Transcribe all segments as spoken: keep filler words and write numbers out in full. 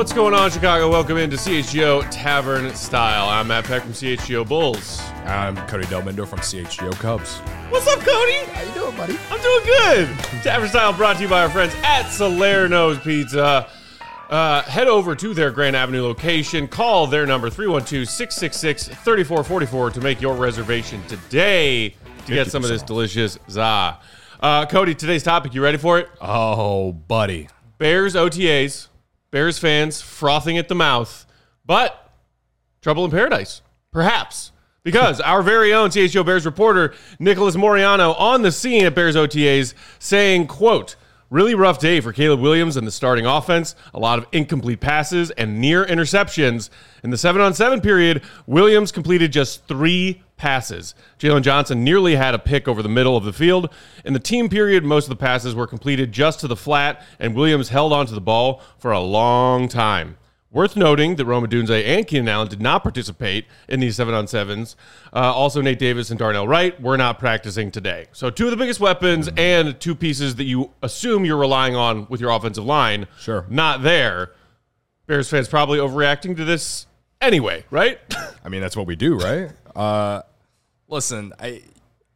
What's going on, Chicago? Welcome into C H G O Tavern Style. I'm Matt Peck from C H G O Bulls. I'm Cody Delmendo from C H G O Cubs. What's up, Cody? How you doing, buddy? I'm doing good. Tavern Style brought to you by our friends at Salerno's Pizza. Uh, head over to their Grand Avenue location. Call their number three one two, six six six, three four four four to make your reservation today to get some of this delicious za. Uh, Cody, today's topic, you ready for it? Oh, buddy. Bears O T As. Bears fans frothing at the mouth, but trouble in paradise, perhaps. Because our very own C H G O Bears reporter, Nicholas Moriano, on the scene at Bears O T As, saying, quote, really rough day for Caleb Williams and the starting offense. A lot of incomplete passes and near interceptions. In the seven on seven period, Williams completed just three passes. Jalen Johnson nearly had a pick over the middle of the field. In the team period, most of the passes were completed just to the flat, and Williams held onto the ball for a long time. Worth noting that Rome Odunze and Keenan Allen did not participate in these seven on sevens. Uh, also, Nate Davis and Darnell Wright were not practicing today. So two of the biggest weapons and two pieces that you assume you're relying on with your offensive line, Sure. not there. Bears fans probably overreacting to this anyway, right? I mean, that's what we do, right? Uh, listen, I.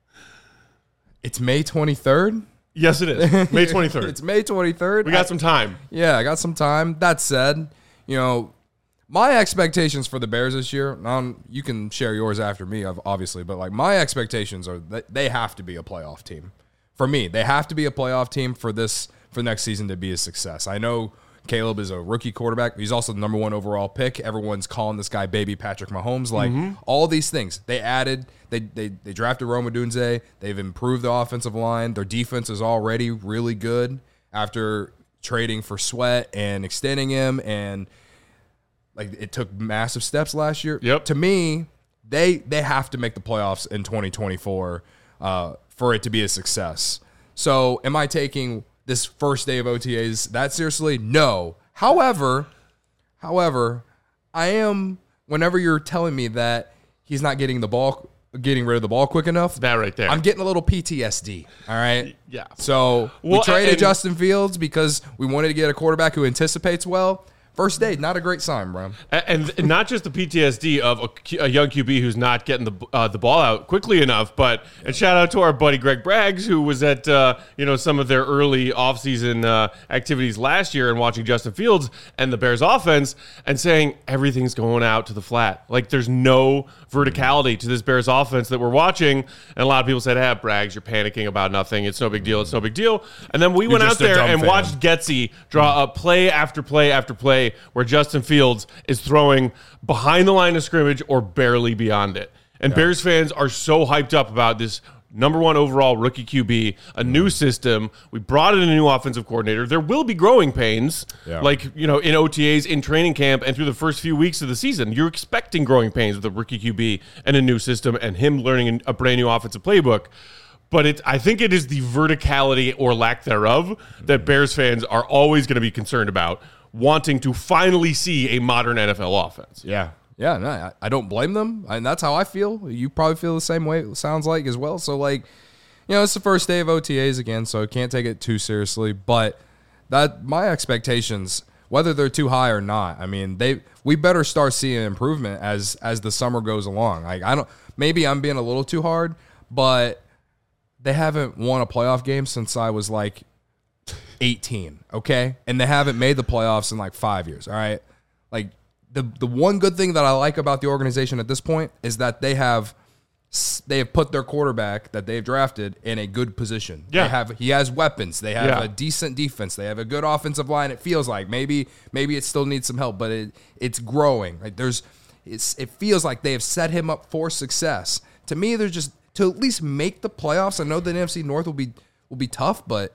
It's May twenty-third. Yes, it is. May twenty-third. It's May twenty-third. We got I, some time. Yeah, I got some time. That said, you know, my expectations for the Bears this year, um, you can share yours after me, obviously, but like my expectations are that they have to be a playoff team. For me, they have to be a playoff team for this for next season to be a success. I know Caleb is a rookie quarterback. He's also the number one overall pick. Everyone's calling this guy baby Patrick Mahomes. Like mm-hmm. all these things. They added, they they they drafted Rome Odunze. They've improved the offensive line. Their defense is already really good after trading for Sweat and extending him, and like it took massive steps last year. Yep. To me, they they have to make the playoffs in twenty twenty-four uh, for it to be a success. So am I taking this first day of O T As that seriously? No. However, however, I am, whenever you're telling me that he's not getting the ball, getting rid of the ball quick enough, that right there, I'm getting a little P T S D. All right. Yeah. So well, we traded and, Justin Fields because we wanted to get a quarterback who anticipates well. First day, not a great sign, bro. And, and not just the P T S D of a, a young Q B who's not getting the uh, the ball out quickly enough, but and shout out to our buddy Greg Braggs, who was at uh, you know some of their early offseason uh, activities last year and watching Justin Fields and the Bears offense and saying everything's going out to the flat. Like there's no verticality to this Bears offense that we're watching. And a lot of people said, "Ah, Braggs, you're panicking about nothing. It's no big deal. It's no big deal." And then we you're went out there and fan. watched Getsy draw up play after play after play where Justin Fields is throwing behind the line of scrimmage or barely beyond it. And yeah. Bears fans are so hyped up about this number one overall rookie Q B, a new system. We brought in a new offensive coordinator. There will be growing pains, yeah. like, you know, in O T As, in training camp, and through the first few weeks of the season. You're expecting growing pains with a rookie Q B and a new system and him learning a brand new offensive playbook. But it, I think it is the verticality or lack thereof that Bears fans are always going to be concerned about, wanting to finally see a modern N F L offense. Yeah. Yeah, no, I, I don't blame them. And that's how I feel. You probably feel the same way, it sounds like, as well. So, like, you know, it's the first day of O T As again, so can't take it too seriously. But that my expectations, whether they're too high or not, I mean, they we better start seeing improvement as as the summer goes along. Like, I don't, maybe I'm being a little too hard, but they haven't won a playoff game since I was like eighteen, okay? And they haven't made the playoffs in like five years, all right? Like, the the one good thing that I like about the organization at this point is that they have they have put their quarterback that they've drafted in a good position. Yeah. They have he has weapons. They have yeah. a decent defense. They have a good offensive line. It feels like maybe maybe it still needs some help, but it it's growing. Like there's it's it feels like they have set him up for success. To me, they're just to at least make the playoffs. I know the N F C North will be will be tough, but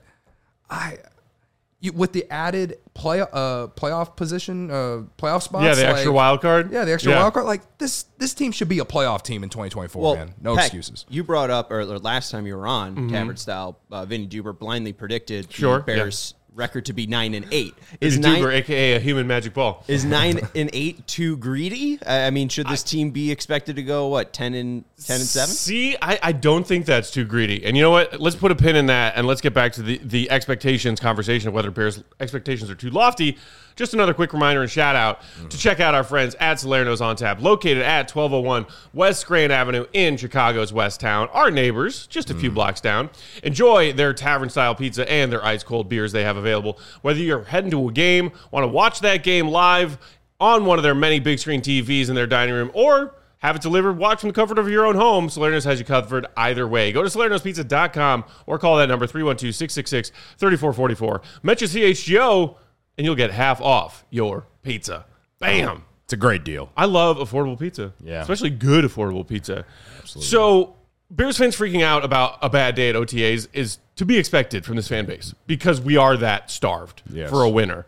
I you, with the added play uh playoff position, uh playoff spots. Yeah, the extra like, wild card. Yeah, the extra yeah. wild card. Like this this team should be a playoff team in twenty twenty-four, well, man. No Peck, excuses. You brought up, or, or last time you were on, mm-hmm. Tavern Style, uh, Vinny Duber blindly predicted sure, the Bears' yeah. record to be nine and eight. Is Vinny nine, Duber, a k a a human magic ball. Is nine and eight too greedy? I mean, should this I, team be expected to go, what, ten and ten and seven? See, I, I don't think that's too greedy. And you know what? Let's put a pin in that, and let's get back to the, the expectations conversation of whether Bears' expectations are too lofty. Just another quick reminder and shout out mm. to check out our friends at Salerno's on Tap, located at twelve oh one West Grand Avenue in Chicago's West Town. Our neighbors, just a mm. few blocks down. Enjoy their tavern-style pizza and their ice-cold beers they have available. Whether you're heading to a game, want to watch that game live on one of their many big-screen T Vs in their dining room, or have it delivered, watch from the comfort of your own home, Salerno's has you covered either way. Go to salernos pizza dot com or call that number three one two, six six six, three four four four. Mention C H G O, and you'll get half off your pizza. Bam! It's a great deal. I love affordable pizza. Yeah. Especially good affordable pizza. Absolutely. So, Bears fans freaking out about a bad day at O T As is to be expected from this fan base because we are that starved yes. for a winner.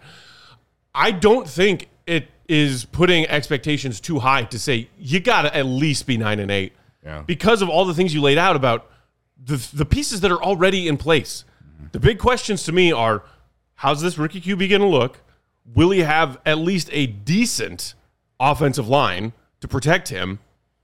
I don't think it is putting expectations too high to say you got to at least be nine and eight yeah. because of all the things you laid out about the the pieces that are already in place. Mm-hmm. The big questions to me are, how's this rookie Q B going to look? Will he have at least a decent offensive line to protect him?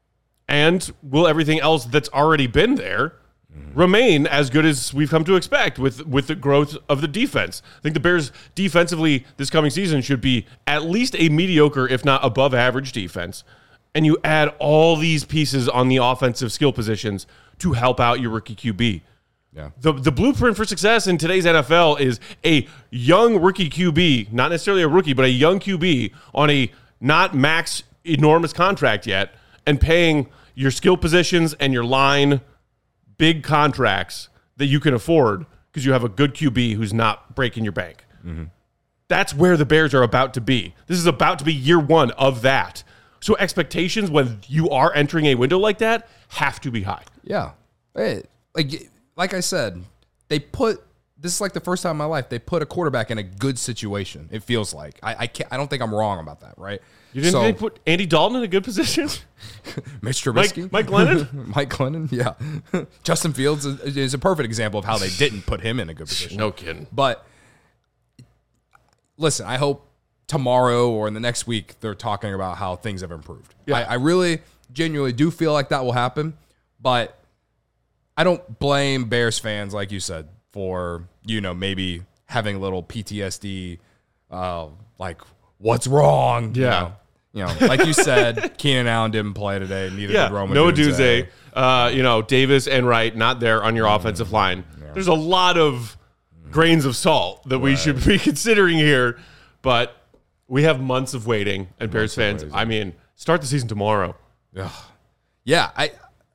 And will everything else that's already been there mm-hmm. remain as good as we've come to expect with, with the growth of the defense? I think the Bears defensively this coming season should be at least a mediocre, if not above average defense. And you add all these pieces on the offensive skill positions to help out your rookie Q B. Yeah. The the blueprint for success in today's N F L is a young rookie Q B, not necessarily a rookie, but a young Q B on a not max enormous contract yet, and paying your skill positions and your line big contracts that you can afford because you have a good Q B who's not breaking your bank. Mm-hmm. That's where the Bears are about to be. This is about to be year one of that. So expectations when you are entering a window like that have to be high. Yeah. Hey, like like I said, they put this is like the first time in my life they put a quarterback in a good situation. It feels like I I, can't, I don't think I'm wrong about that, right? You didn't so, think they put Andy Dalton in a good position? Mitch Trubisky, Mike, Mike Glennon, Mike Glennon, yeah. Justin Fields is, is a perfect example of how they didn't put him in a good position. No kidding. But listen, I hope tomorrow or in the next week they're talking about how things have improved. Yeah. I, I really genuinely do feel like that will happen, but I don't blame Bears fans, like you said, for, you know, maybe having a little P T S D, uh, like, what's wrong? Yeah. You know, you know like you said, Keenan Allen didn't play today, neither yeah. did Roma Noah Dunze. Dunze, uh, you know, Davis and Wright not there on your mm, offensive line. Yeah. There's a lot of grains of salt that right. we should be considering here, but we have months of waiting, and Bears fans, I mean, start the season tomorrow. Ugh. Yeah, I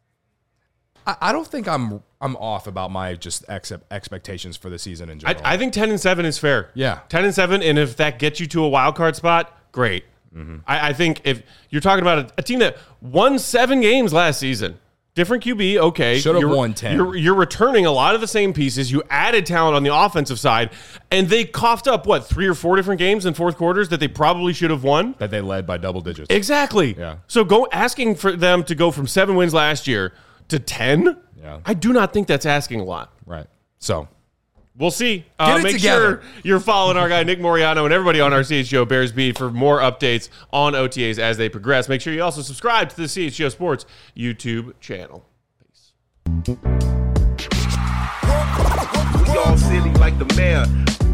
I don't think I'm I'm off about my just ex- expectations for the season in general. I, I think ten and seven is fair. Yeah, ten and seven, and if that gets you to a wild card spot, great. Mm-hmm. I, I think if you're talking about a, a team that won seven games last season, different Q B, okay, should have you're, won ten. You're, you're returning a lot of the same pieces. You added talent on the offensive side, and they coughed up what three or four different games in fourth quarters that they probably should have won. That they led by double digits. Exactly. Yeah. So go asking for them to go from seven wins last year to ten. Yeah. I do not think that's asking a lot. Right. So we'll see. Get Uh, it make together. sure you're following our guy Nick Moriano and everybody on our C H G O Bears beat for more updates on O T As as they progress. Make sure you also subscribe to the C H G O Sports YouTube channel. Peace. We all silly like the mayor.